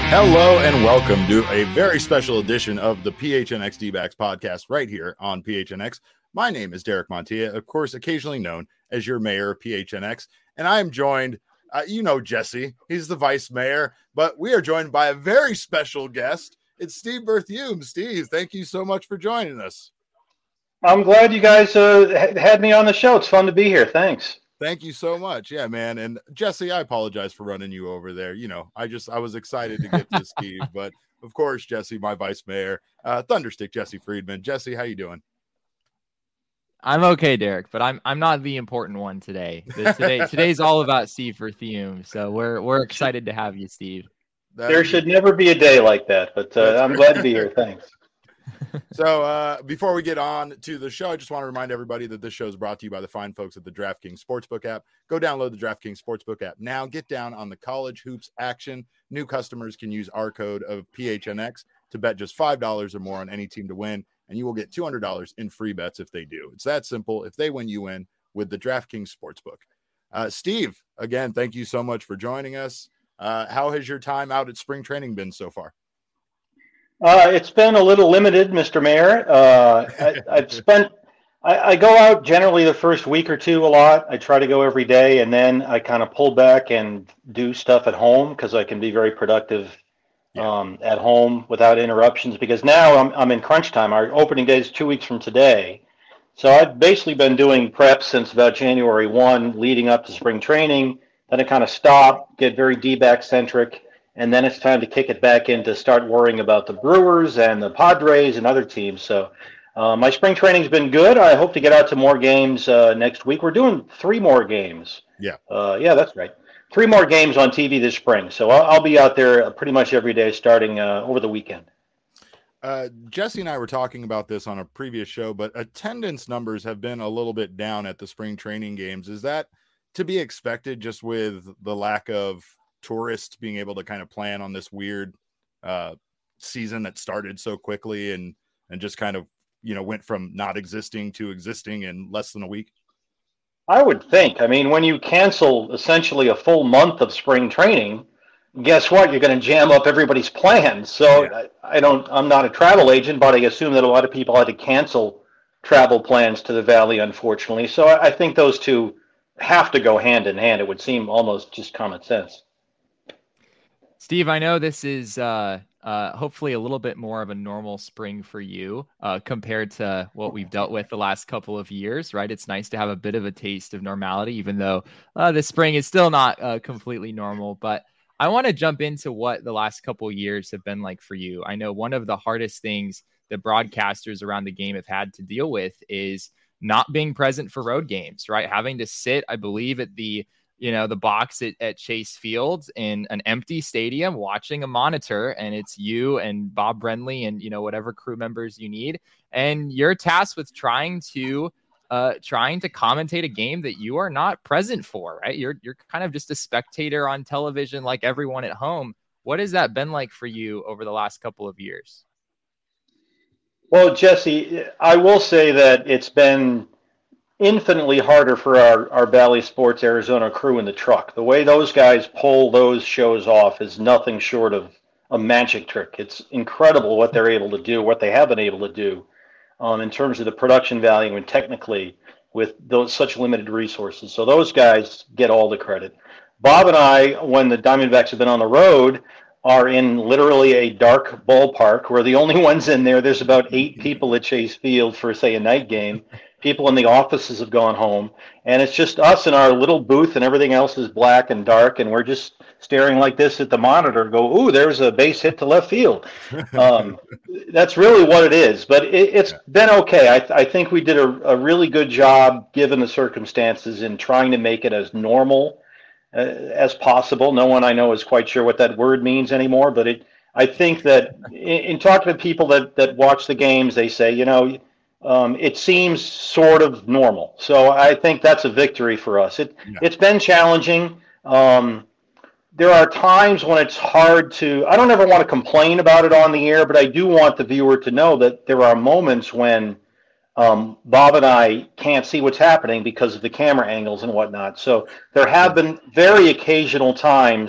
Hello and welcome to a very special edition of the PHNX D-backs podcast right here on PHNX. My name is Derek Montilla, of course, occasionally known as your mayor of PHNX, and I am joined, Jesse, he's the vice mayor, but we are joined by a very special guest. It's Steve Berthiaume. Steve, thank you so much for joining us. I'm glad you guys had me on the show. It's fun to be here. Thanks. Thank you so much. Yeah, man. And Jesse, I apologize for running you over there. I was excited to get to Steve, but of course, Jesse, my vice mayor, Thunderstick Jesse Friedman. Jesse, how you doing? I'm okay, Derek, but I'm not the important one today. Today's all about Steve Berthiaume, so we're excited to have you, Steve. There should never be a day like that, but I'm glad to be here. Thanks. So before we get on to the show, I just want to remind everybody that this show is brought to you by the fine folks at the DraftKings Sportsbook app. Go download the DraftKings Sportsbook app now. Get down on the college hoops action. New customers can use our code of PHNX to bet just $5 or more on any team to win, and you will get $200 in free bets if they do. It's that simple. If they win, you win with the DraftKings Sportsbook. Steve, again, thank you so much for joining us. How has your time out at spring training been so far? It's been a little limited, Mr. Mayor. I go out generally the first week or two a lot. I try to go every day, and then I kind of pull back and do stuff at home because I can be very productive at home without interruptions. Because now I'm in crunch time. Our opening day is 2 weeks from today. So I've basically been doing prep since about January 1, leading up to spring training. Then I kind of stop, get very D-back centric. And then it's time to kick it back in to start worrying about the Brewers and the Padres and other teams. So my spring training's been good. I hope to get out to more games next week. We're doing 3 more games. Yeah, that's right. 3 more games on TV this spring. So I'll be out there pretty much every day starting over the weekend. Jesse and I were talking about this on a previous show, but attendance numbers have been a little bit down at the spring training games. Is that to be expected just with the lack of tourists being able to kind of plan on this weird season that started so quickly and just kind of, went from not existing to existing in less than a week? I would think. I mean, when you cancel essentially a full month of spring training, guess what? You're going to jam up everybody's plans. So yeah. I'm not a travel agent, but I assume that a lot of people had to cancel travel plans to the Valley, unfortunately. So I think those two have to go hand in hand. It would seem almost just common sense. Steve, I know this is hopefully a little bit more of a normal spring for you compared to what we've dealt with the last couple of years, right? It's nice to have a bit of a taste of normality, even though this spring is still not completely normal. But I want to jump into what the last couple of years have been like for you. I know one of the hardest things that broadcasters around the game have had to deal with is not being present for road games, right? Having to sit, I believe, at the box at Chase Field in an empty stadium watching a monitor, and it's you and Bob Brenly and, whatever crew members you need. And you're tasked with trying to commentate a game that you are not present for, right? You're kind of just a spectator on television like everyone at home. What has that been like for you over the last couple of years? Well, Jesse, I will say that it's been infinitely harder for our Valley Sports Arizona crew in the truck. The way those guys pull those shows off is nothing short of a magic trick. It's incredible what they're able to do, what they have been able to do in terms of the production value and technically with those such limited resources. So those guys get all the credit. Bob and I, when the Diamondbacks have been on the road, are in literally a dark ballpark. We're the only ones in there. There's about 8 people at Chase Field for, say, a night game. People in the offices have gone home, and it's just us in our little booth, and everything else is black and dark, and we're just staring like this at the monitor, go, ooh, there's a base hit to left field. That's really what it is, but it's been okay. I think we did a really good job, given the circumstances, in trying to make it as normal as possible. No one I know is quite sure what that word means anymore, but I think that in talking to people that watch the games, they say, it seems sort of normal. So I think that's a victory for us. It's been challenging. There are times when it's hard I don't ever want to complain about it on the air, but I do want the viewer to know that there are moments when Bob and I can't see what's happening because of the camera angles and whatnot. So there have been very occasional times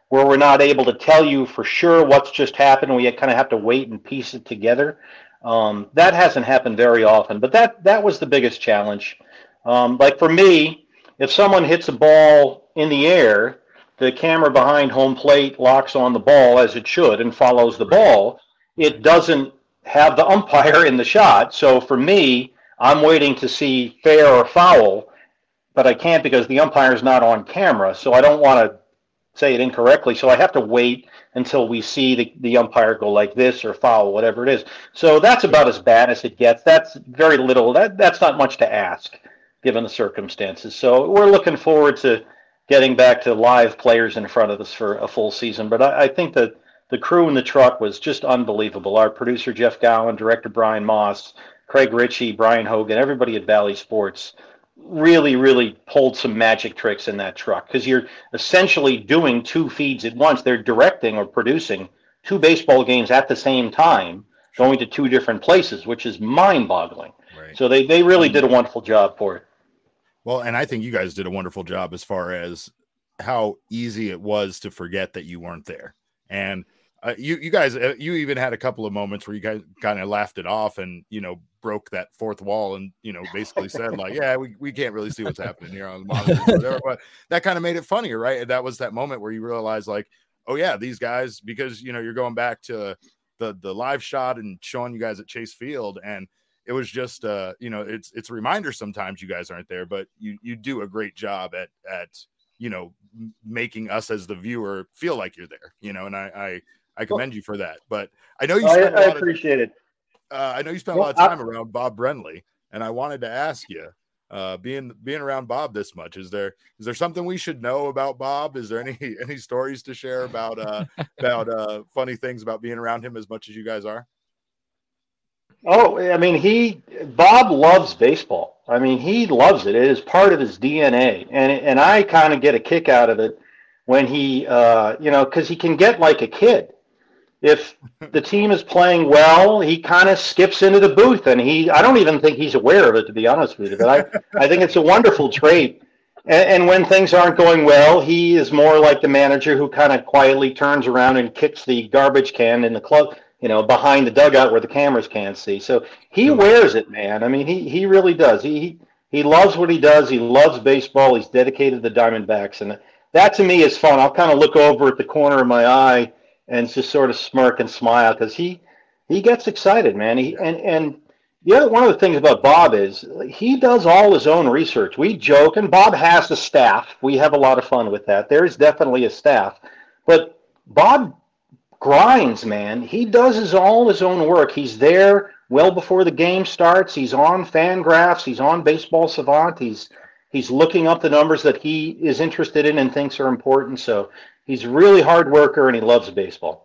where we're not able to tell you for sure what's just happened. We kind of have to wait and piece it together. That hasn't happened very often, but that was the biggest challenge. Like for me, if someone hits a ball in the air, the camera behind home plate locks on the ball as it should and follows the ball. It doesn't have the umpire in the shot. So for me, I'm waiting to see fair or foul, but I can't because the umpire is not on camera. So I don't want to say it incorrectly. So I have to wait until we see the umpire go like this or foul, whatever it is. So that's about as bad as it gets. That's very little. That's not much to ask given the circumstances. So we're looking forward to getting back to live players in front of us for a full season. But I think that the crew in the truck was just unbelievable. Our producer, Jeff Gowan, director Brian Moss, Craig Ritchie, Brian Hogan, everybody at Valley Sports really, really pulled some magic tricks in that truck because you're essentially doing two feeds at once. They're directing or producing two baseball games at the same time, going to two different places, which is mind-boggling. Right. So they really did a wonderful job for it. Well, and I think you guys did a wonderful job as far as how easy it was to forget that you weren't there. And you guys, you even had a couple of moments where you guys kind of laughed it off and, broke that fourth wall and, basically said like, yeah, we can't really see what's happening here on the monitor or whatever, but that kind of made it funnier, right? And that was that moment where you realize like, oh yeah, these guys, because, you're going back to the live shot and showing you guys at Chase Field. And it was just, it's a reminder sometimes you guys aren't there, but you do a great job at making us as the viewer feel like you're there, and I commend you for that. But I know I appreciate it. I know you spent a lot of time around Bob Brenly, and I wanted to ask you, being around Bob this much, is there something we should know about Bob? Is there any stories to share about funny things about being around him as much as you guys are? Oh, I mean, Bob loves baseball. I mean, he loves it. It is part of his DNA. And I kind of get a kick out of it when he, because he can get like a kid. If the team is playing well, he kind of skips into the booth. And I don't even think he's aware of it, to be honest with you. But I think it's a wonderful trait. And when things aren't going well, he is more like the manager who kind of quietly turns around and kicks the garbage can in the club, behind the dugout where the cameras can't see. So he wears it, man. I mean, he really does. He loves what he does. He loves baseball. He's dedicated to the Diamondbacks. And that to me is fun. I'll kind of look over at the corner of my eye and just sort of smirk and smile because he gets excited, man. And one of the things about Bob is he does all his own research. We joke, and Bob has a staff. We have a lot of fun with that. There is definitely a staff. But Bob grinds, man. He does all his own work. He's there well before the game starts. He's on Fangraphs. He's on Baseball Savant. He's looking up the numbers that he is interested in and thinks are important. So he's a really hard worker, and he loves baseball.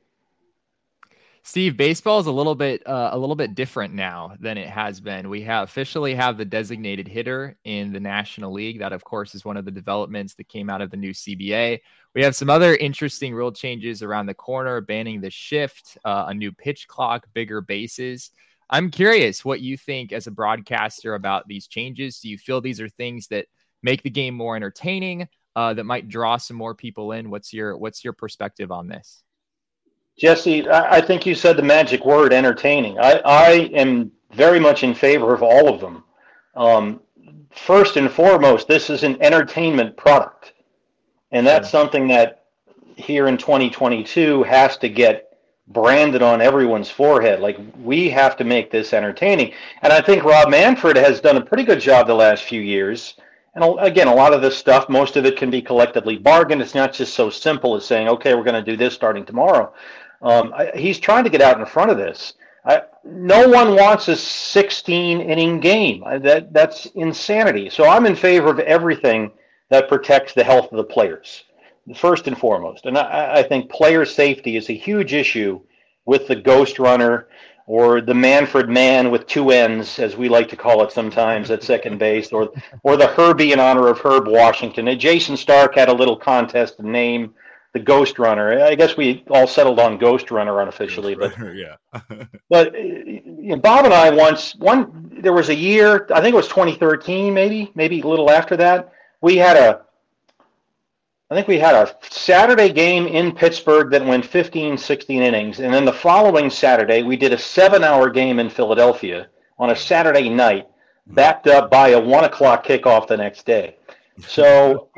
Steve, baseball is a little bit different now than it has been. We officially have the designated hitter in the National League. That, of course, is one of the developments that came out of the new CBA. We have some other interesting rule changes around the corner, banning the shift, a new pitch clock, bigger bases. I'm curious what you think as a broadcaster about these changes. Do you feel these are things that make the game more entertaining, that might draw some more people in? What's your perspective on this? Jesse, I think you said the magic word, entertaining. I am very much in favor of all of them. First and foremost, this is an entertainment product. And that's something that here in 2022 has to get branded on everyone's forehead. Like, we have to make this entertaining. And I think Rob Manfred has done a pretty good job the last few years. And again, a lot of this stuff, most of it can be collectively bargained. It's not just so simple as saying, okay, we're going to do this starting tomorrow. He's trying to get out in front of this. No one wants a 16-inning game. That's insanity. So I'm in favor of everything that protects the health of the players, first and foremost. And I think player safety is a huge issue with the ghost runner or the Manfred man with two N's, as we like to call it sometimes, at second base, or the Herbie in honor of Herb Washington. And Jason Stark had a little contest to name the Ghost Runner. I guess we all settled on Ghost Runner unofficially, but yeah. But Bob and I there was a year, I think it was 2013, maybe a little after that. We had I think we had a Saturday game in Pittsburgh that went 15, 16 innings. And then the following Saturday, we did a 7-hour game in Philadelphia on a Saturday night, backed up by a 1 o'clock kickoff the next day. So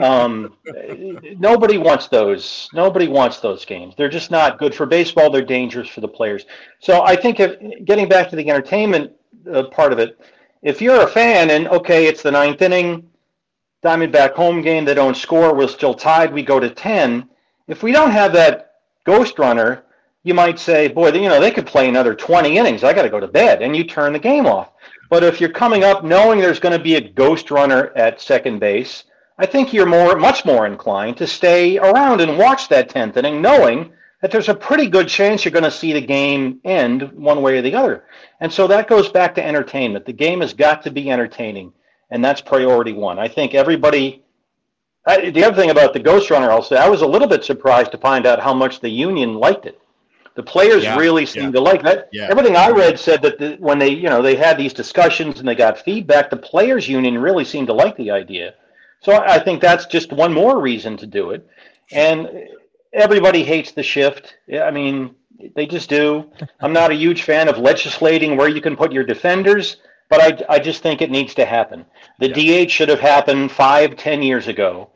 nobody wants those. Nobody wants those games. They're just not good for baseball. They're dangerous for the players. So I think getting back to the entertainment part of it, if you're a fan and, okay, it's the 9th inning, Diamondback home game, they don't score, we're still tied, we go to 10. If we don't have that ghost runner, you might say, boy, they could play another 20 innings. I got to go to bed. And you turn the game off. But if you're coming up knowing there's going to be a ghost runner at second base, I think you're much more inclined to stay around and watch that 10th inning, knowing that there's a pretty good chance you're going to see the game end one way or the other. And so that goes back to entertainment. The game has got to be entertaining, and that's priority one. I think everybody – the other thing about the ghost runner, I'll say, I was a little bit surprised to find out how much the union liked it. The players really seemed to like that. Yeah. Everything I read said that when they had these discussions and they got feedback, the players union really seemed to like the idea. So I think that's just one more reason to do it. And everybody hates the shift. I mean, they just do. I'm not a huge fan of legislating where you can put your defenders, but I just think it needs to happen. The DH should have happened 5-10 years ago.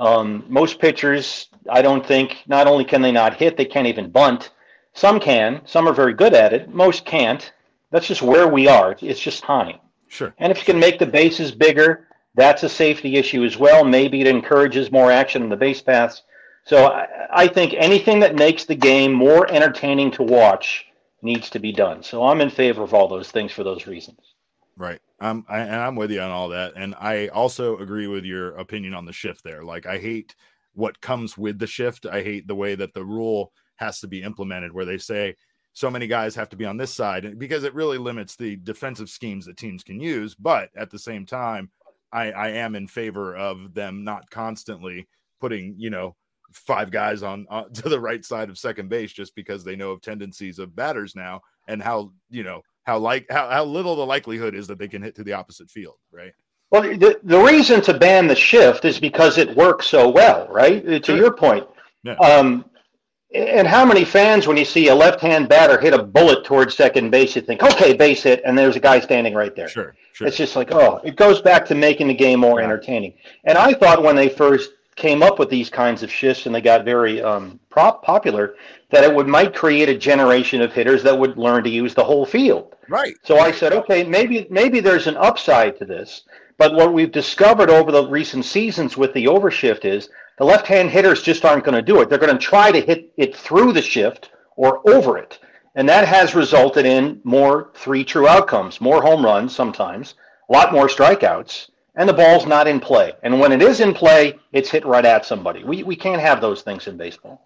Most pitchers, I don't think, not only can they not hit, they can't even bunt. Some can. Some are very good at it. Most can't. That's just where we are. It's just time. Sure. And if you can make the bases bigger, that's a safety issue as well. Maybe it encourages more action in the base paths. So I think anything that makes the game more entertaining to watch needs to be done. So I'm in favor of all those things for those reasons. Right. I'm with you on all that. And I also agree with your opinion on the shift there. Like, I hate what comes with the shift. I hate the way that the rule has to be implemented, where they say so many guys have to be on this side, because it really limits the defensive schemes that teams can use. But at the same time, I am in favor of them not constantly putting, 5 guys on to the right side of second base just because they know of tendencies of batters now, and how little the likelihood is that they can hit to the opposite field, right? Well, the reason to ban the shift is because it works so well, right? To your point. Yeah. And how many fans, when you see a left-hand batter hit a bullet towards second base, you think, okay, base hit, and there's a guy standing right there. Sure. It's just like, it goes back to making the game more entertaining. And I thought when they first came up with these kinds of shifts and they got very popular, that it might create a generation of hitters that would learn to use the whole field. Right. So I said, okay, maybe there's an upside to this. But what we've discovered over the recent seasons with the overshift is the left-hand hitters just aren't going to do it. They're going to try to hit it through the shift or over it. And that has resulted in more 3 true outcomes, more home runs sometimes, a lot more strikeouts, and the ball's not in play. And when it is in play, it's hit right at somebody. We can't have those things in baseball.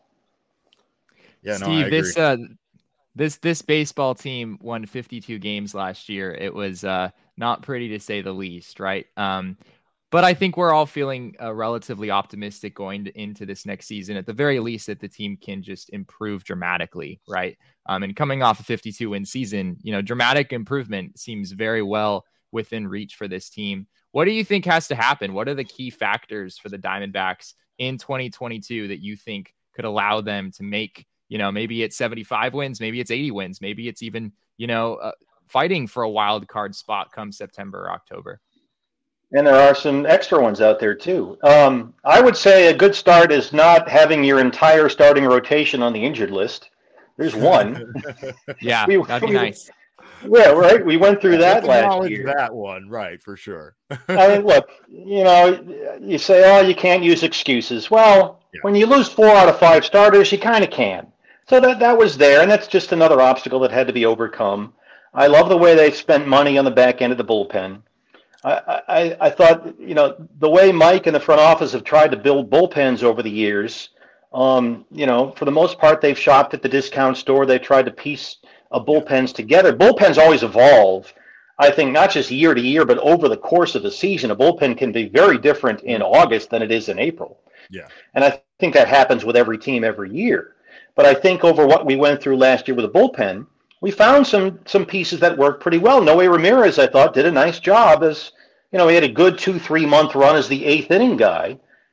Yeah, Steve, I agree. This baseball team won 52 games last year. It was not pretty, to say the least, right? But I think we're all feeling relatively optimistic going into this next season, at the very least, that the team can just improve dramatically, right? And coming off a 52-win season, dramatic improvement seems very well within reach for this team. What do you think has to happen? What are the key factors for the Diamondbacks in 2022 that you think could allow them to make, maybe it's 75 wins, maybe it's 80 wins, maybe it's even, fighting for a wild card spot come September or October? And there are some extra ones out there too. I would say a good start is not having your entire starting rotation on the injured list. There's one. Yeah, that'd be nice. Yeah, right. We went through that last year. That one, right, for sure. I mean, look, you say, you can't use excuses. Well, when you lose 4 out of 5 starters, you kind of can. So that was there, and that's just another obstacle that had to be overcome. I love the way they spent money on the back end of the bullpen. I thought, the way Mike and the front office have tried to build bullpens over the years, for the most part, they've shopped at the discount store. They've tried to piece bullpens together. Bullpens always evolve. I think not just year to year, but over the course of a season, a bullpen can be very different in August than it is in April. Yeah. And I think that happens with every team every year. But I think over what we went through last year with a bullpen, we found some pieces that worked pretty well. Noe Ramirez, I thought, did a nice job as, he had a good 2-3 month run as the 8th inning guy.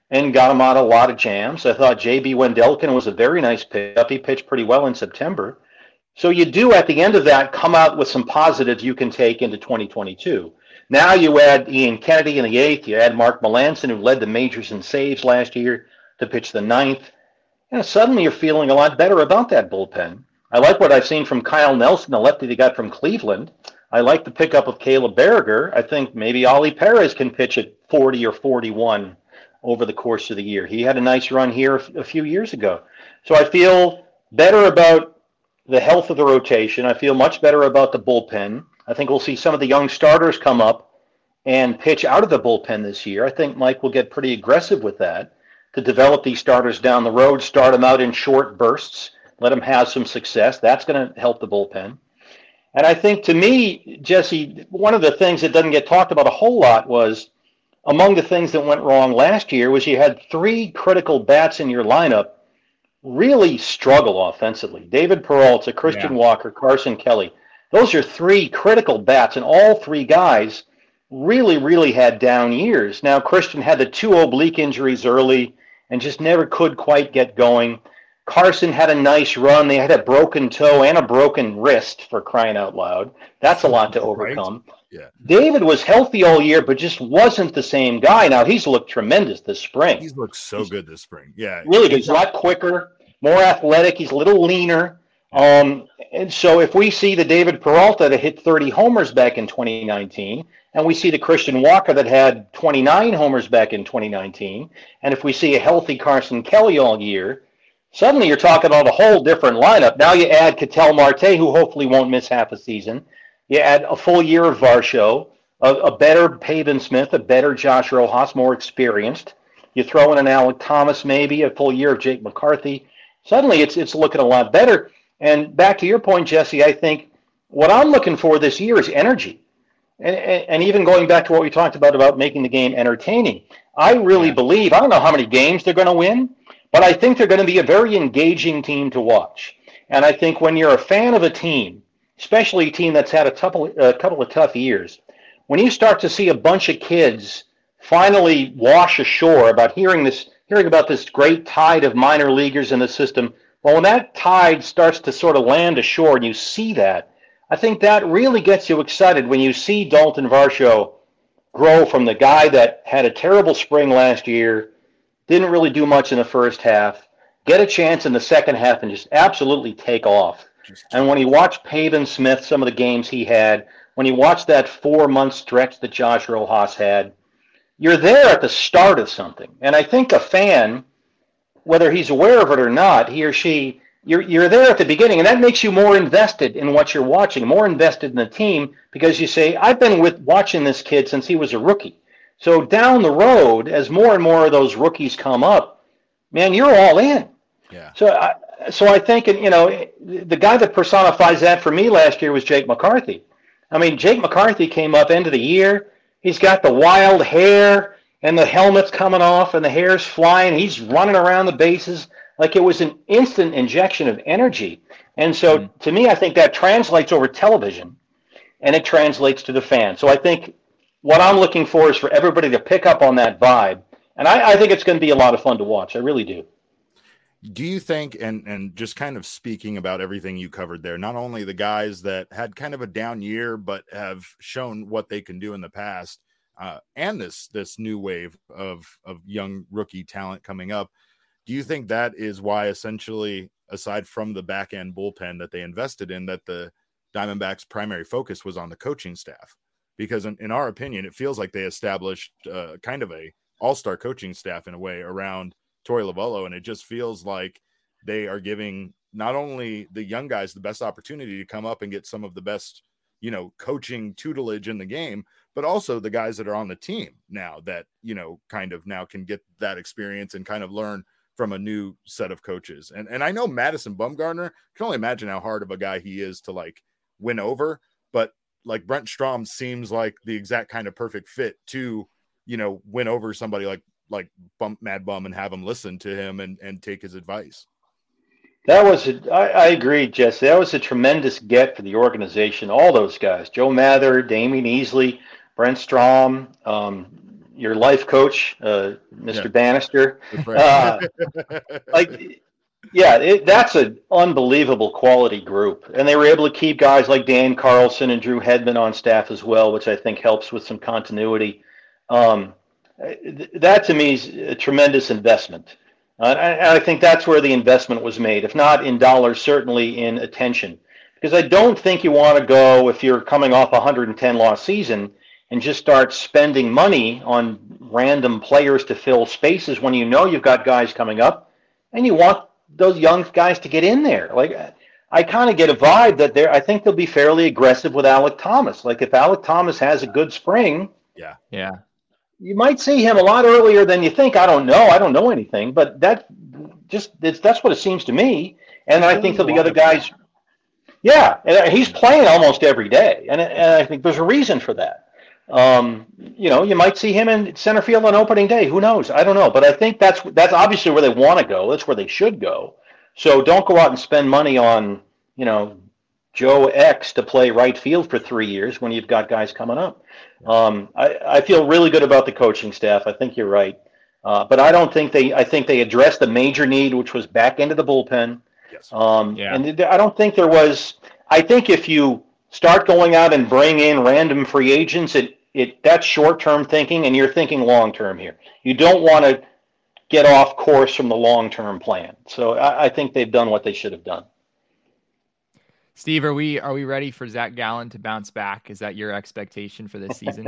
and got him out of a lot of jams. I thought J.B. Wendelken was a very nice pickup. He pitched pretty well in September. So you do, at the end of that, come out with some positives you can take into 2022. Now you add Ian Kennedy in the 8th. You add Mark Melancon, who led the majors in saves last year, to pitch the 9th. Suddenly you're feeling a lot better about that bullpen. I like what I've seen from Kyle Nelson, the lefty they got from Cleveland. I like the pickup of Caleb Berriger. I think maybe Ollie Perez can pitch at 40 or 41 over the course of the year. He had a nice run here a few years ago. So I feel better about the health of the rotation. I feel much better about the bullpen. I think we'll see some of the young starters come up and pitch out of the bullpen this year. I think Mike will get pretty aggressive with that to develop these starters down the road, start them out in short bursts, let them have some success. That's going to help the bullpen. And I think, to me, Jesse, one of the things that doesn't get talked about a whole lot was, among the things that went wrong last year was you had 3 critical bats in your lineup really struggle offensively. David Peralta, Christian Walker, Carson Kelly. Those are 3 critical bats, and all 3 guys really, really had down years. Now, Christian had the 2 oblique injuries early and just never could quite get going. Carson had a nice run. They had a broken toe and a broken wrist, for crying out loud. That's a lot to overcome. Right? Yeah. David was healthy all year, but just wasn't the same guy. Now, he's looked tremendous this spring. He's looked so good this spring. Yeah. Really good. He's a lot quicker, more athletic. He's a little leaner. And so if we see the David Peralta that hit 30 homers back in 2019, and we see the Christian Walker that had 29 homers back in 2019, and if we see a healthy Carson Kelly all year, suddenly you're talking about a whole different lineup. Now you add Ketel Marte, who hopefully won't miss half a season. You add a full year of Varsho, a better Pavin Smith, a better Josh Rojas, more experienced. You throw in an Alec Thomas, maybe a full year of Jake McCarthy. Suddenly it's looking a lot better. And back to your point, Jesse, I think what I'm looking for this year is energy. And even going back to what we talked about making the game entertaining, I really believe, I don't know how many games they're going to win, but I think they're going to be a very engaging team to watch. And I think when you're a fan of a team, especially a team that's had a couple of tough years, when you start to see a bunch of kids finally wash ashore about hearing about this great tide of minor leaguers in the system, well, when that tide starts to sort of land ashore and you see that, I think that really gets you excited when you see Dalton Varsho grow from the guy that had a terrible spring last year, didn't really do much in the first half, get a chance in the second half and just absolutely take off. And when you watch Pavin Smith, some of the games he had, when you watch that 4-month stretch that Josh Rojas had, you're there at the start of something. And I think a fan, whether he's aware of it or not, he or she, you're there at the beginning, and that makes you more invested in what you're watching, more invested in the team, because you say, I've been watching this kid since he was a rookie. So down the road, as more and more of those rookies come up, man, you're all in. Yeah. So I think, the guy that personifies that for me last year was Jake McCarthy. I mean, Jake McCarthy came up end of the year. He's got the wild hair and the helmet's coming off and the hair's flying. He's running around the bases like it was an instant injection of energy. And so to me, I think that translates over television and it translates to the fan. So I think what I'm looking for is for everybody to pick up on that vibe. And I think it's going to be a lot of fun to watch. I really do. Do you think, and just kind of speaking about everything you covered there, not only the guys that had kind of a down year, but have shown what they can do in the past, and this new wave of young rookie talent coming up, do you think that is why, essentially, aside from the back end bullpen that they invested in, that the Diamondbacks' primary focus was on the coaching staff? Because in our opinion, it feels like they established kind of a all-star coaching staff in a way around Torey Lovullo, and it just feels like they are giving not only the young guys the best opportunity to come up and get some of the best, coaching tutelage in the game, but also the guys that are on the team now that, kind of now can get that experience and kind of learn from a new set of coaches. And I know Madison Bumgarner, can only imagine how hard of a guy he is to win over, but Brent Strom seems like the exact kind of perfect fit to, win over somebody like Mad Bum and have him listen to him and take his advice. I agree, Jesse. That was a tremendous get for the organization. All those guys, Joe Mather, Damian Easley, Brent Strom, your life coach, Mr. Bannister. Right. That's an unbelievable quality group. And they were able to keep guys like Dan Carlson and Drew Hedman on staff as well, which I think helps with some continuity. That to me is a tremendous investment. I think that's where the investment was made, if not in dollars, certainly in attention. Because I don't think you want to go, if you're coming off a 110 loss season, and just start spending money on random players to fill spaces when you know you've got guys coming up and you want those young guys to get in there. Like, I kind of get a vibe that I think they'll be fairly aggressive with Alec Thomas. Like, if Alec Thomas has a good spring, you might see him a lot earlier than you think. I don't know anything, but that's what it seems to me. And I think there'll be other guys. Yeah, and he's playing almost every day, and I think there's a reason for that. You might see him in center field on opening day. Who knows? I don't know, but I think that's obviously where they want to go. That's where they should go. So don't go out and spend money on Joe X to play right field for 3 years when you've got guys coming up. I feel really good about the coaching staff. I think you're right, but I don't think I think they addressed the major need, which was back into the bullpen. Yes. And I don't think there was. I think if you start going out and bring in random free agents, that's short-term thinking, and you're thinking long-term here. You don't want to get off course from the long-term plan. So I think they've done what they should have done. Steve, are we ready for Zach Gallen to bounce back? Is that your expectation for this season?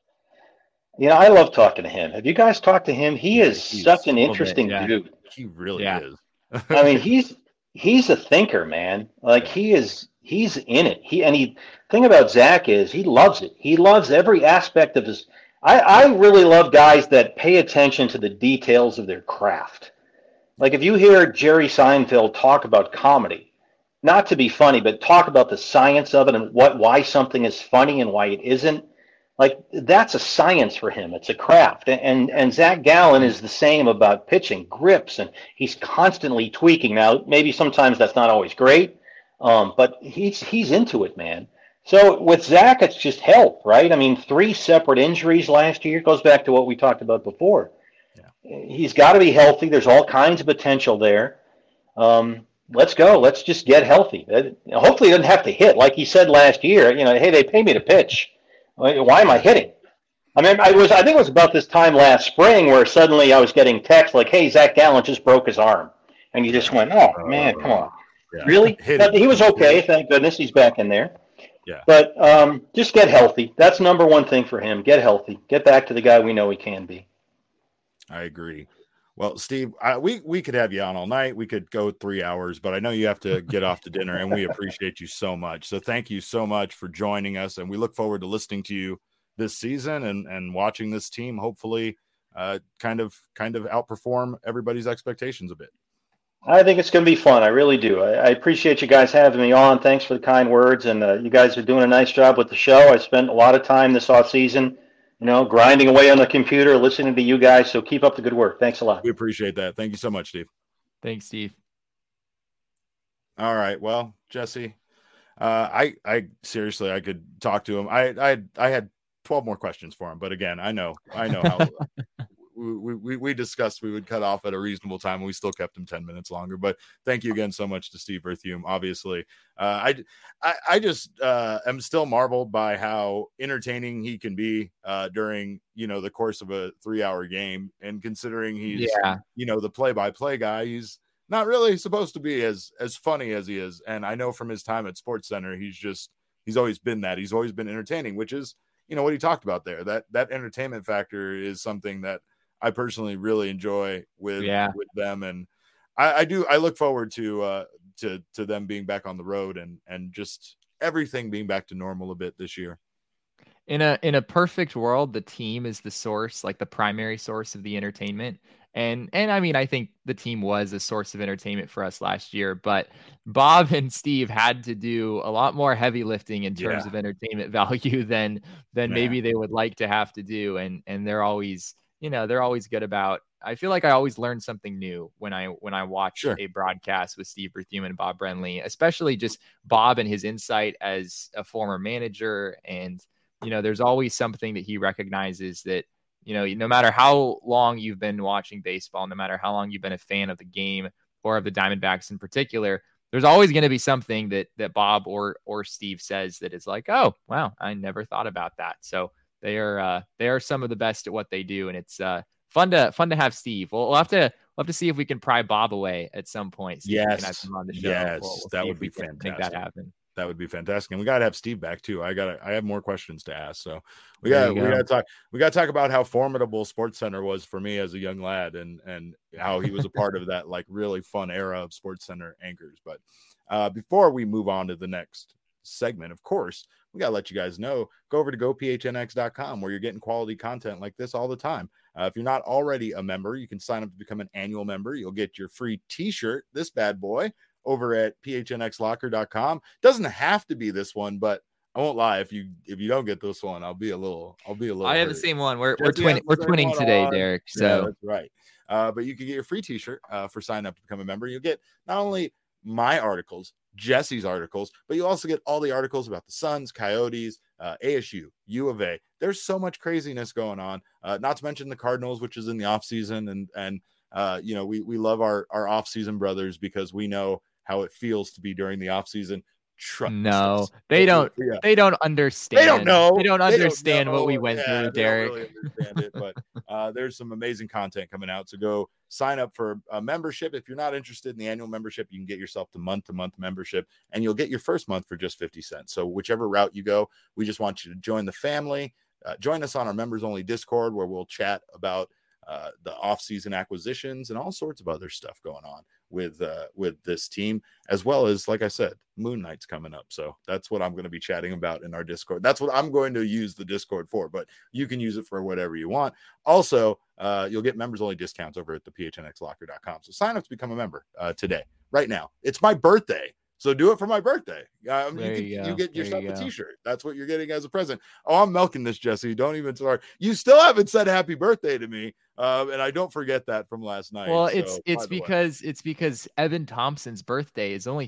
I love talking to him. Have you guys talked to him? He is such an interesting dude. He really is. I mean, he's a thinker, man. Like, he's in it. Thing about Zach is he loves it. He loves every aspect of his. I really love guys that pay attention to the details of their craft. Like, if you hear Jerry Seinfeld talk about comedy, not to be funny, but talk about the science of it and why something is funny and why it isn't. Like, that's a science for him. It's a craft. And Zach Gallen is the same about pitching, grips, and he's constantly tweaking. Now, maybe sometimes that's not always great, but he's into it, man. So with Zach, it's just health, right? I mean, 3 separate injuries last year. It goes back to what we talked about before. Yeah. He's got to be healthy. There's all kinds of potential there. Let's go. Let's just get healthy. Hopefully he doesn't have to hit. Like he said last year, hey, they pay me to pitch. Why am I hitting? I mean, I think it was about this time last spring where suddenly I was getting texts like, hey, Zach Gallen just broke his arm. And you just went, oh, man, come on. Yeah. Really? But he was okay. Thank goodness he's back in there. Yeah. But just get healthy. That's number one thing for him. Get healthy. Get back to the guy we know he can be. I agree. Well, Steve, we could have you on all night. We could go 3 hours, but I know you have to get off to dinner, and we appreciate you so much. So thank you so much for joining us, and we look forward to listening to you this season and watching this team hopefully kind of outperform everybody's expectations a bit. I think it's going to be fun. I really do. I appreciate you guys having me on. Thanks for the kind words, and you guys are doing a nice job with the show. I spent a lot of time this offseason grinding away on the computer, listening to you guys. So keep up the good work. Thanks a lot. We appreciate that. Thank you so much, Steve. Thanks, Steve. All right. Well, Jesse, I seriously, I could talk to him. I had 12 more questions for him, but again, I know how we discussed we would cut off at a reasonable time, and we still kept him 10 minutes longer. But thank you again so much to Steve Berthiaume. Obviously, I just am still marveled by how entertaining he can be during the course of a 3-hour game, and considering he's the play-by-play guy, he's not really supposed to be as funny as he is. And I know from his time at SportsCenter, he's always been that. He's always been entertaining, which is what he talked about there. That entertainment factor is something that I personally really enjoy with them, and I look forward to them being back on the road and just everything being back to normal a bit this year. In a perfect world, the team is the source, like the primary source of the entertainment. And I mean, I think the team was a source of entertainment for us last year, but Bob and Steve had to do a lot more heavy lifting in terms of entertainment value than maybe they would like to have to do. And they're always good about. I feel like I always learn something new when I watch a broadcast with Steve Berthiaume and Bob Brenly, especially just Bob and his insight as a former manager. And, there's always something that he recognizes that no matter how long you've been watching baseball, no matter how long you've been a fan of the game or of the Diamondbacks in particular, there's always going to be something that Bob or Steve says that is like, oh, wow, I never thought about that. So they are some of the best at what they do, and it's fun to have Steve. We'll have to see if we can pry Bob away at some point. Yes, we can have him on the show. Yes, that would be fantastic. Make that happen. That would be fantastic, and we got to have Steve back too. I have more questions to ask, so we got to talk about how formidable SportsCenter was for me as a young lad, and how he was a part of that like really fun era of SportsCenter anchors. But before we move on to the next segment, of course, we got to let you guys know, go over to gophnx.com where you're getting quality content like this all the time. If you're not already a member, you can sign up to become an annual member. You'll get your free t-shirt, this bad boy, over at phnxlocker.com. Doesn't have to be this one, but I won't lie, if you don't get this one, I'll be a little I have the same one. We're twinning today, Derek. So yeah, that's right. But you can get your free t-shirt for sign up to become a member. You'll get not only my articles, Jesse's articles, but you also get all the articles about the Suns, Coyotes, ASU, U of A. There's so much craziness going on. Not to mention the Cardinals, which is in the off season, and we love our off season brothers because we know how it feels to be during the off season. No, they don't. Yeah. They don't understand. They don't know. They don't understand what we went through, Derek. They don't really understand it, but there's some amazing content coming out. So go sign up for a membership. If you're not interested in the annual membership, you can get yourself to month membership, and you'll get your first month for just 50 cents. So whichever route you go, we just want you to join the family. Join us on our members only Discord, where we'll chat about the off-season acquisitions and all sorts of other stuff going on with this team, as well as, like I said, Moon Knight's coming up. So that's what I'm going to be chatting about in our Discord. That's what I'm going to use the Discord for, but you can use it for whatever you want. Also, you'll get members only discounts over at the phnxlocker.com. So sign up to become a member today, right now. It's my birthday. So do it for my birthday. You get yourself a t-shirt. That's what you're getting as a present. Oh, I'm milking this, Jesse. Don't even start. You still haven't said happy birthday to me. And I don't forget that from last night. Well, it's because Evan Thompson's birthday is only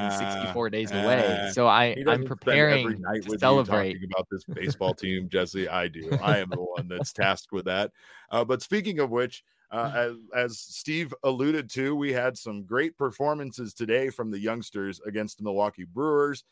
364 days away. So I'm preparing to celebrate about this baseball team, Jesse. I do. I am the one that's tasked with that. But speaking of which, as Steve alluded to, we had some great performances today from the youngsters against the Milwaukee Brewers.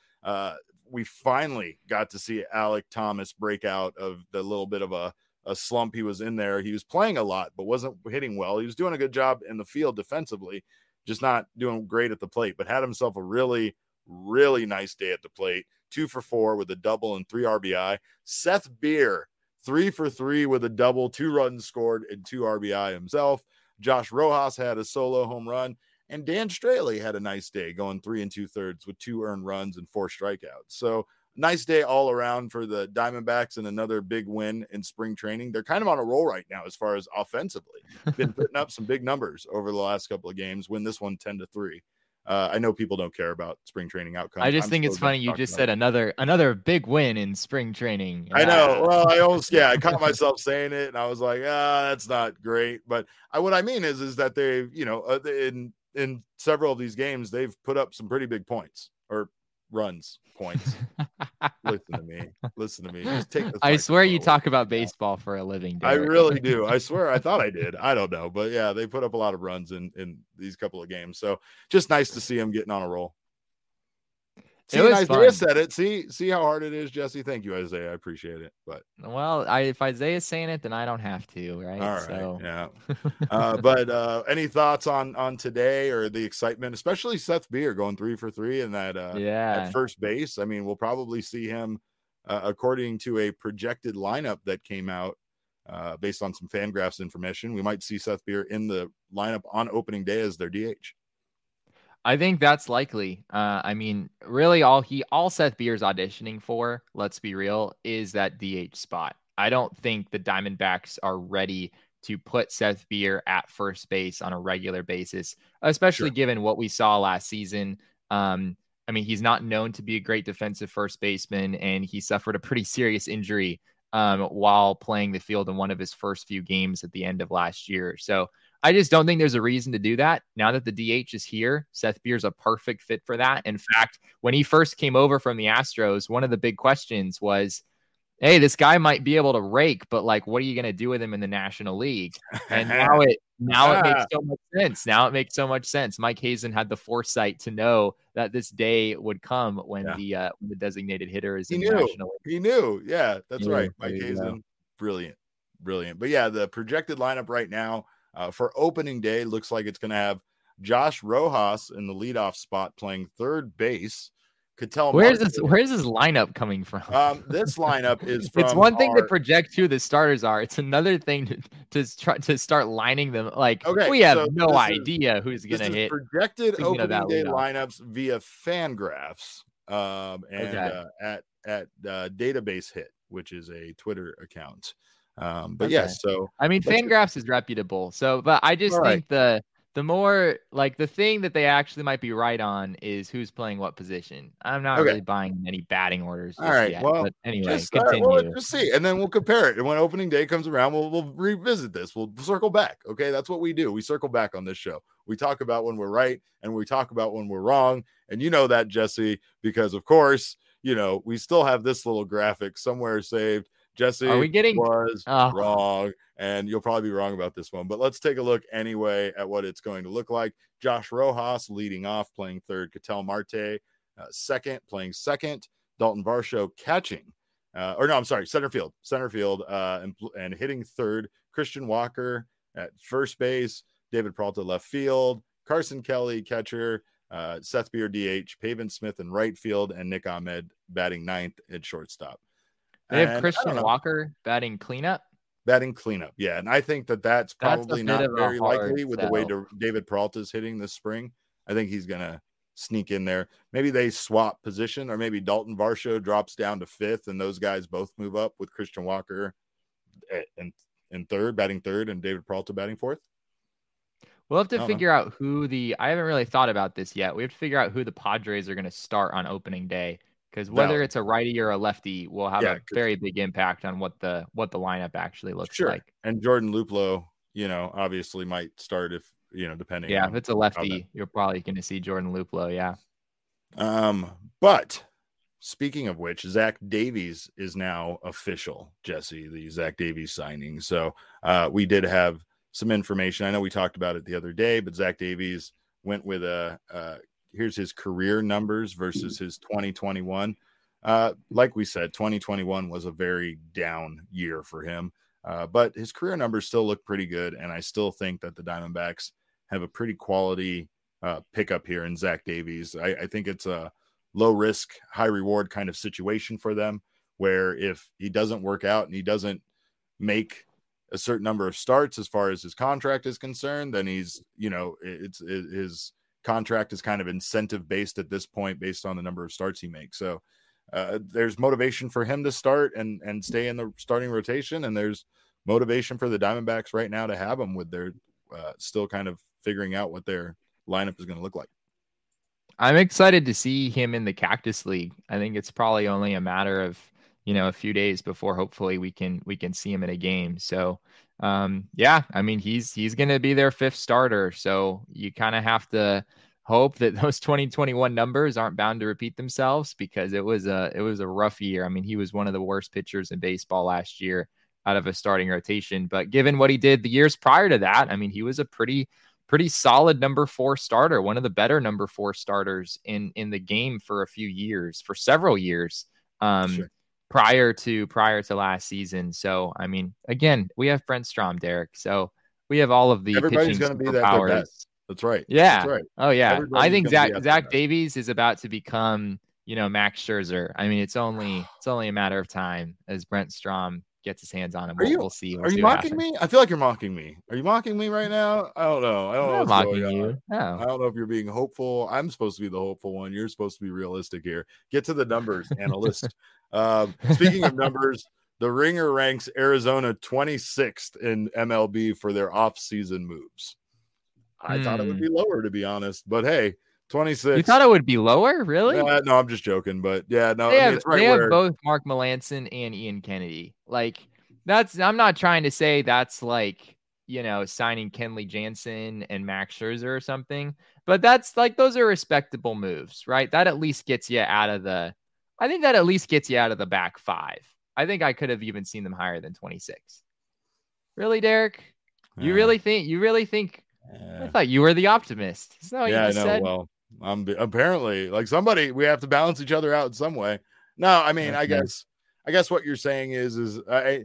We finally got to see Alek Thomas break out of the little bit of a slump he was in there. He was playing a lot, but wasn't hitting well. He was doing a good job in the field defensively, just not doing great at the plate, but had himself a really, really nice day at the plate. 2 for 4 with a double and 3 RBI. Seth Beer, 3 for 3 with a double, 2 runs scored and 2 RBI himself. Josh Rojas had a solo home run, and Dan Straley had a nice day, going 3 2/3 with 2 earned runs and 4 strikeouts. So nice day all around for the Diamondbacks, and another big win in spring training. They're kind of on a roll right now as far as offensively. Been putting up some big numbers over the last couple of games. Win this one 10-3. I know people don't care about spring training outcomes. I just think it's funny you just said another big win in spring training. I know. Well, I caught myself saying it, and I was like, that's not great. But what I mean is that they, in several of these games, they've put up some pretty big points or points. Listen to me. Just take I swear you talk about baseball for a living, Derek. I really do. I swear. I thought I did. I don't know, but yeah, they put up a lot of runs in these couple of games. So just nice to see them getting on a roll. See, Isaiah said it. See how hard it is, Jesse. Thank you, Isaiah. I appreciate it. But if Isaiah's saying it, then I don't have to, right? All right. So. Yeah. But any thoughts on today or the excitement, especially Seth Beer going 3 for 3 in that at first base? I mean, we'll probably see him according to a projected lineup that came out based on some Fangraphs information. We might see Seth Beer in the lineup on opening day as their DH. I think that's likely. I mean, really all Seth Beer's auditioning for, let's be real, is that DH spot. I don't think the Diamondbacks are ready to put Seth Beer at first base on a regular basis, especially given what we saw last season. I mean, he's not known to be a great defensive first baseman, and he suffered a pretty serious injury while playing the field in one of his first few games at the end of last year. So I just don't think there's a reason to do that. Now that the DH is here, Seth Beer's a perfect fit for that. In fact, when he first came over from the Astros, one of the big questions was, hey, this guy might be able to rake, but like, what are you going to do with him in the National League? And now it makes so much sense. Now it makes so much sense. Mike Hazen had the foresight to know that this day would come when the designated hitter is in the National League. He knew. Yeah, that's right. Mike Hazen, brilliant. But yeah, the projected lineup right now for opening day looks like it's going to have Josh Rojas in the leadoff spot playing third base. Where's this lineup coming from? This lineup is from it's one thing to project who the starters are. It's another thing to try to start lining them. Like, we have no idea who's going to hit. Projected opening day lineups via Fangraphs at Database Hit, which is a Twitter account. But yes, so I mean, Fangraphs is reputable. So, but I just think the more like the thing that they actually might be right on is who's playing what position. I'm not really buying any batting orders. All right. Yet, well, but anyway, continue. We'll just see, and then we'll compare it. And when opening day comes around, we'll revisit this. We'll circle back. Okay, that's what we do. We circle back on this show. We talk about when we're right, and we talk about when we're wrong. And you know that, Jesse, because of course, we still have this little graphic somewhere saved. Jesse was wrong, and you'll probably be wrong about this one, but let's take a look anyway at what it's going to look like. Josh Rojas leading off, playing third. Ketel Marte second, playing second. Dalton Varsho catching, center field, and hitting third. Christian Walker at first base. David Peralta left field. Carson Kelly catcher. Seth Beer DH. Pavin Smith in right field, and Nick Ahmed batting ninth at shortstop. They have Christian Walker batting cleanup. Yeah. And I think that's probably not very likely with the way David Peralta is hitting this spring. I think he's going to sneak in there. Maybe they swap position, or maybe Dalton Varsho drops down to fifth, and those guys both move up with Christian Walker in third, batting third, and David Peralta batting fourth. We'll have to figure out I haven't really thought about this yet. We have to figure out who the Padres are going to start on opening day. Because whether it's a righty or a lefty will have a very big impact on what the lineup actually looks like. And Jordan Luplow, obviously might start if depending. Yeah, if it's a lefty, you're probably going to see Jordan Luplow. Yeah. But speaking of which, Zach Davies is now official. Jesse, the Zach Davies signing. So we did have some information. I know we talked about it the other day, but Zach Davies went with here's his career numbers versus his 2021. Like we said, 2021 was a very down year for him, but his career numbers still look pretty good. And I still think that the Diamondbacks have a pretty quality pickup here in Zach Davies. I think it's a low risk, high reward kind of situation for them, where if he doesn't work out and he doesn't make a certain number of starts as far as his contract is concerned, then he's, his contract is kind of incentive based at this point based on the number of starts he makes. So there's motivation for him to start and stay in the starting rotation. And there's motivation for the Diamondbacks right now to have him with their still kind of figuring out what their lineup is going to look like. I'm excited to see him in the Cactus League. I think it's probably only a matter of, a few days before hopefully we can see him in a game. So I mean, he's going to be their fifth starter. So you kind of have to hope that those 2021 numbers aren't bound to repeat themselves, because it was a rough year. I mean, he was one of the worst pitchers in baseball last year out of a starting rotation. But given what he did the years prior to that, I mean, he was a pretty solid number 4 starter, one of the better number 4 starters in the game for several years. Sure. Prior to last season. So, I mean, again, we have Brent Strom, Derek. So we have all of the everybody's going to be that powers. That's right. Yeah. That's right. Oh yeah. I think Zach Davies is about to become, Max Scherzer. I mean, it's only a matter of time as Brent Strom gets his hands on him. We'll see. Are you mocking me? I feel like you're mocking me. Are you mocking me right now? I don't know. I'm not mocking you. No. I don't know if you're being hopeful. I'm supposed to be the hopeful one. You're supposed to be realistic here. Get to the numbers, analyst. Speaking of numbers, the Ringer ranks Arizona 26th in MLB for their off-season moves. I thought it would be lower, to be honest, but hey, 26. You thought it would be lower? Really? No, I'm just joking, but yeah, no. They have both Mark Melancon and Ian Kennedy. Like, I'm not trying to say that's like, signing Kenley Jansen and Max Scherzer or something, but that's like, those are respectable moves, right? That at least gets you out of the back 5. I think I could have even seen them higher than 26. Really, Derek? You Yeah. really think? I thought you were the optimist. Isn't that what you Yeah, I just know. said? Well, I'm apparently like somebody. We have to balance each other out in some way. No, I mean, Okay. I guess what you're saying is the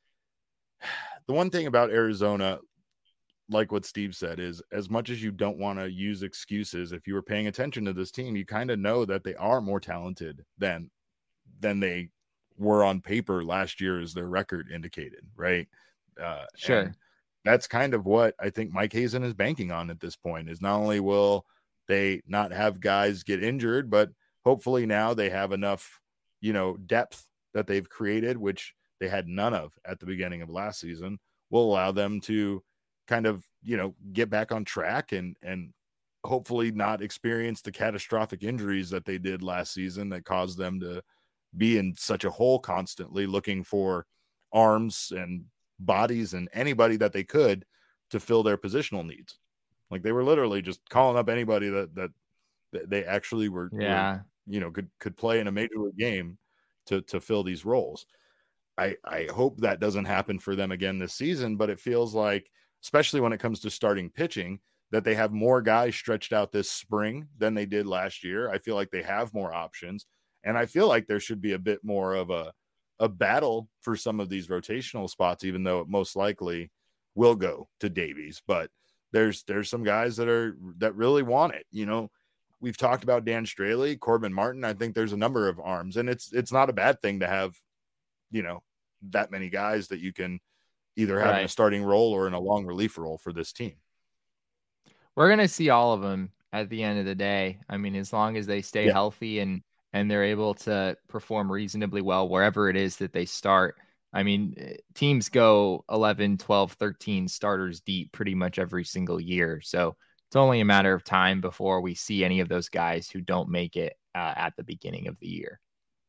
one thing about Arizona, like what Steve said, is as much as you don't want to use excuses, if you were paying attention to this team, you kind of know that they are more talented than they were on paper last year, as their record indicated, right? Sure. And that's kind of what I think Mike Hazen is banking on at this point, is not only will they not have guys get injured, but hopefully now they have enough, depth that they've created, which they had none of at the beginning of last season, will allow them to kind of, get back on track and hopefully not experience the catastrophic injuries that they did last season that caused them to be in such a hole constantly looking for arms and bodies and anybody that they could to fill their positional needs. Like they were literally just calling up anybody that they actually were could play in a major league game to fill these roles. I hope that doesn't happen for them again this season, but it feels like, especially when it comes to starting pitching, that they have more guys stretched out this spring than they did last year. I feel like they have more options, and I feel like there should be a bit more of a battle for some of these rotational spots, even though it most likely will go to Davies. But there's some guys that really want it. We've talked about Dan Straley, Corbin Martin. I think there's a number of arms, and it's not a bad thing to have, that many guys that you can either have in a starting role or in a long relief role for this team. We're going to see all of them at the end of the day. I mean, as long as they stay healthy and they're able to perform reasonably well wherever it is that they start. I mean, teams go 11, 12, 13 starters deep pretty much every single year. So it's only a matter of time before we see any of those guys who don't make it at the beginning of the year.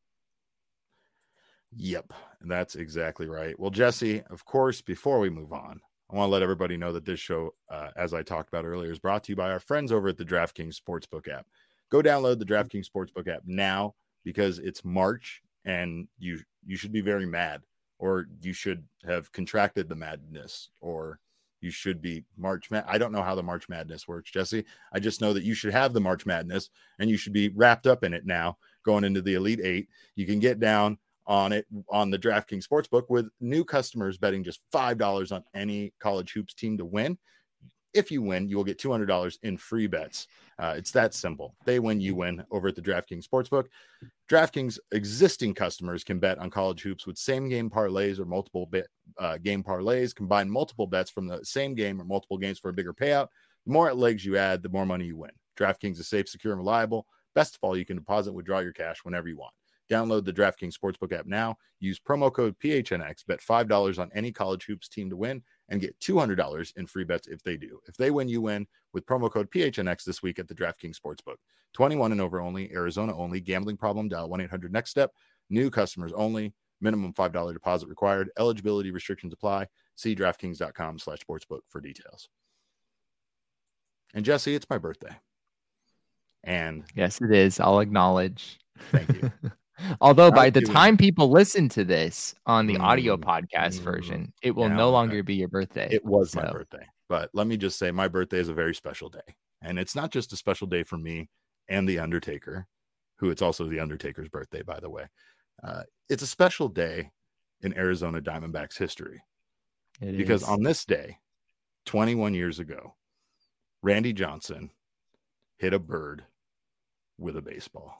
Yep, that's exactly right. Well, Jesse, of course, before we move on, I want to let everybody know that this show, as I talked about earlier, is brought to you by our friends over at the DraftKings Sportsbook app. Go download the DraftKings Sportsbook app now, because it's March and you should be very mad, or you should have contracted the madness, or you should be I don't know how the March Madness works, Jesse. I just know that you should have the March Madness and you should be wrapped up in it now going into the Elite Eight. You can get down on it on the DraftKings Sportsbook with new customers betting just $5 on any college hoops team to win. If you win, you will get $200 in free bets. It's that simple. They win, you win over at the DraftKings Sportsbook. DraftKings existing customers can bet on college hoops with same game parlays or multiple game parlays. Combine multiple bets from the same game or multiple games for a bigger payout. The more legs you add, the more money you win. DraftKings is safe, secure, and reliable. Best of all, you can deposit and withdraw your cash whenever you want. Download the DraftKings Sportsbook app now. Use promo code PHNX. Bet $5 on any college hoops team to win and get $200 in free bets if they do. If they win, you win with promo code PHNX this week at the DraftKings Sportsbook. 21 and over only. Arizona only. Gambling problem? Dial 1-800-NEXT-STEP. New customers only. Minimum $5 deposit required. Eligibility restrictions apply. See DraftKings.com/sportsbook for details. And Jesse, it's my birthday. And yes, it is. I'll acknowledge. Thank you. Although by the time people listen to this on the audio podcast version, it will no longer be your birthday. It was my birthday. But let me just say, my birthday is a very special day. And it's not just a special day for me and The Undertaker, who it's also The Undertaker's birthday, by the way. It's a special day in Arizona Diamondbacks history. Because on this day, 21 years ago, Randy Johnson hit a bird with a baseball.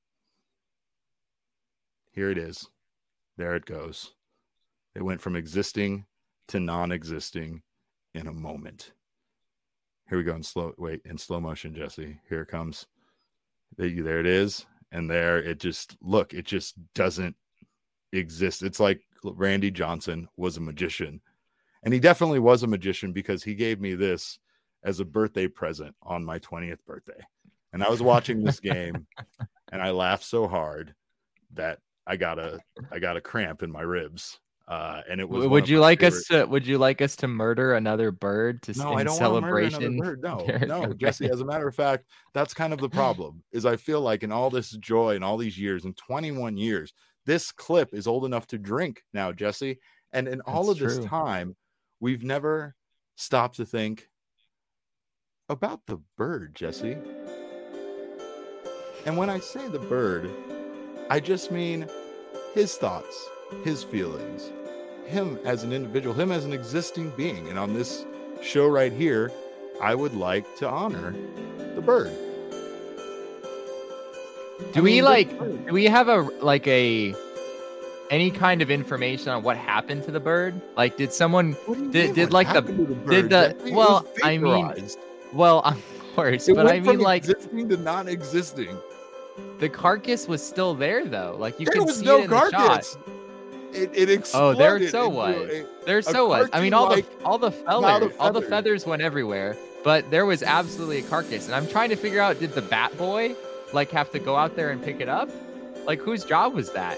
Here it is. There it goes. It went from existing to non-existing in a moment. Here we go in slow motion, Jesse. Here it comes. There it is. And there it just doesn't exist. It's like Randy Johnson was a magician. And he definitely was a magician, because he gave me this as a birthday present on my 20th birthday. And I was watching this game and I laughed so hard that I got a cramp in my ribs. And it was. Would you like us to murder another bird in celebration? No, Jesse. As a matter of fact, that's kind of the problem. Is I feel like in all this joy and all these years, in 21 years, this clip is old enough to drink now, Jesse. And in all of this time, we've never stopped to think about the bird, Jesse. And when I say the bird, I just mean his thoughts, his feelings, him as an individual, him as an existing being. And on this show right here, I would like to honor the bird. Do we have any kind of information on what happened to the bird? Like, did someone did like the bird? Of course, but I mean, like, existing to non-existing. The carcass was still there, though. Like, you can see no it in the shot. It exploded. Oh, there so was. I mean, all the feathers went everywhere, but there was absolutely a carcass. And I'm trying to figure out, did the bat boy like have to go out there and pick it up? Like, whose job was that?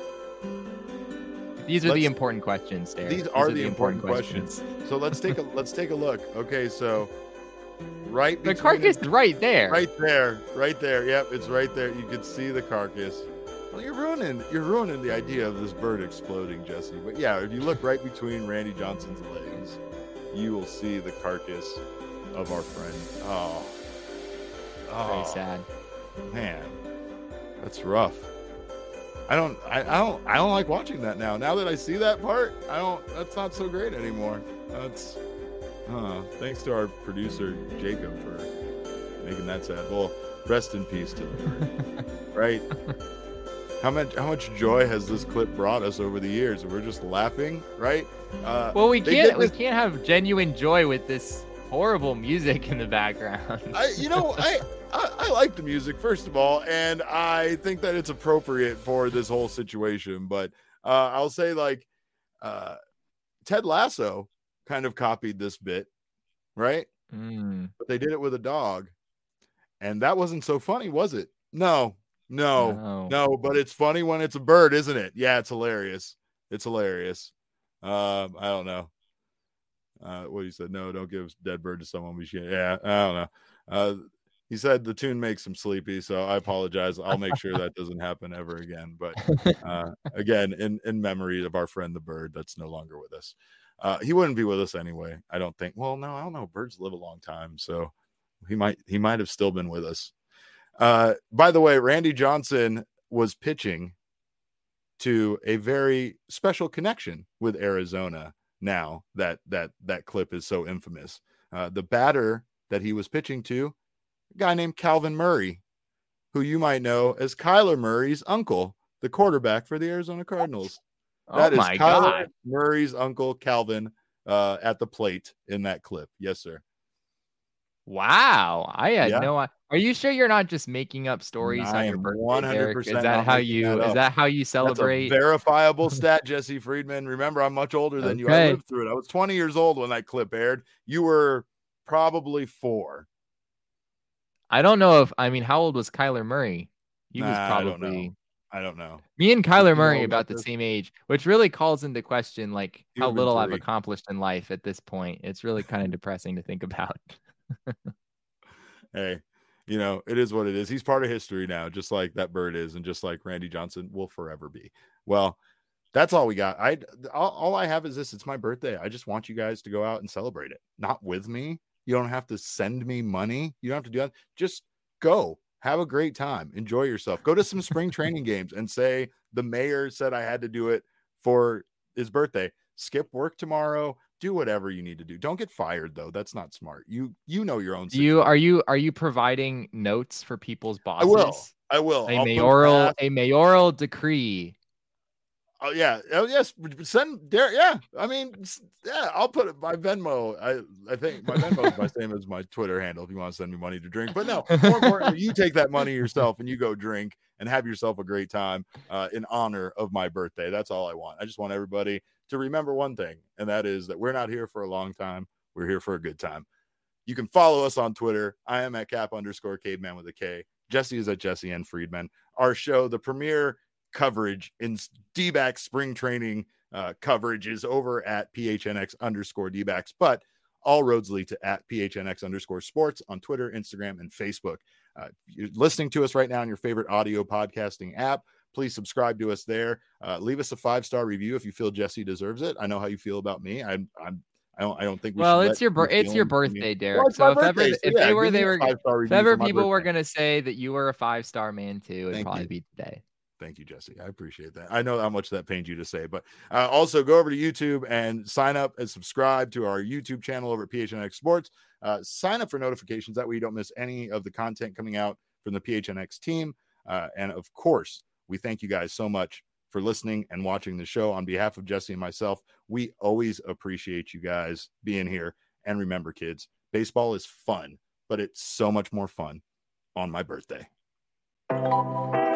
These are the important questions, Derek. These are the important questions. So let's take a look. Okay, so the carcass is right there. Right there. Yep, it's right there. You can see the carcass. Well, you're ruining the idea of this bird exploding, Jesse. But yeah, if you look right between Randy Johnson's legs, you will see the carcass of our friend. Oh, very sad. Man, that's rough. I don't like watching that now. Now that I see that part, that's not so great anymore. Thanks to our producer Jacob for making that sad. Well, rest in peace to the bird. Right? How much joy has this clip brought us over the years? We're just laughing, right? Well, we can't have genuine joy with this horrible music in the background. I like the music, first of all, and I think that it's appropriate for this whole situation. But I'll say, like, Ted Lasso kind of copied this bit, right? But they did it with a dog, and that wasn't so funny, was it? No, but it's funny when it's a bird, isn't it? Yeah, it's hilarious. I don't know. What you said? No, don't give dead bird to someone. Yeah, I don't know. He said the tune makes him sleepy, so I apologize. I'll make sure that doesn't happen ever again. But again, in memory of our friend the bird that's no longer with us. He wouldn't be with us anyway, I don't think. Well, no, I don't know. Birds live a long time, so he might have still been with us. By the way, Randy Johnson was pitching to a very special connection with Arizona. Now that clip is so infamous, the batter that he was pitching to, a guy named Calvin Murray, who you might know as Kyler Murray's uncle, the quarterback for the Arizona Cardinals. That is Kyler Murray's uncle, Calvin, at the plate in that clip. Yes, sir. Wow, I had no idea. Are you sure you're not just making up stories on your birthday? 100%. Is that how you celebrate? That's a verifiable stat, Jesse Friedman. Remember, I'm much older than you. I lived through it. I was 20 years old when that clip aired. You were probably 4. I don't know how old was Kyler Murray? He was probably. I don't know. Me and Kyler Murray about the same age, which really calls into question like how little I've accomplished in life at this point. It's really kind of depressing to think about. Hey, it is what it is. He's part of history now, just like that bird is, and just like Randy Johnson will forever be. Well, that's all we got. All I have is this. It's my birthday. I just want you guys to go out and celebrate it. Not with me. You don't have to send me money. You don't have to do that. Just go. Have a great time. Enjoy yourself. Go to some spring training games and say the mayor said I had to do it for his birthday. Skip work tomorrow. Do whatever you need to do. Don't get fired though. That's not smart. You know your own situation. Are you providing notes for people's bosses? I will. A mayoral decree. Oh yeah. Oh yes. Send there. Yeah. I'll put it my Venmo. I think my Venmo is my same as my Twitter handle if you want to send me money to drink. But no, more importantly, you take that money yourself and you go drink and have yourself a great time in honor of my birthday. That's all I want. I just want everybody to remember one thing, and that is that we're not here for a long time. We're here for a good time. You can follow us on Twitter. I am at @cap_caveman with a K. Jesse is at Jesse N. Friedman. Our show, the premier coverage in D-backs spring training coverage, is over at PHNX_D-backs, but all roads lead to at PHNX_sports on Twitter, Instagram, and Facebook. You're listening to us right now on your favorite audio podcasting app. please subscribe to us there. Leave us a 5-star review if you feel Jesse deserves it. I know how you feel about me. I don't think we well, should. It's your birthday, Derek. Well, so if ever people were gonna say that you were a 5-star man too, it'd probably be today. Thank you, Jesse. I appreciate that. I know how much that pains you to say, but also go over to YouTube and sign up and subscribe to our YouTube channel over at PHNX Sports. Sign up for notifications. That way you don't miss any of the content coming out from the PHNX team. And of course, we thank you guys so much for listening and watching the show. On behalf of Jesse and myself, we always appreciate you guys being here. And remember, kids, baseball is fun, but it's so much more fun on my birthday.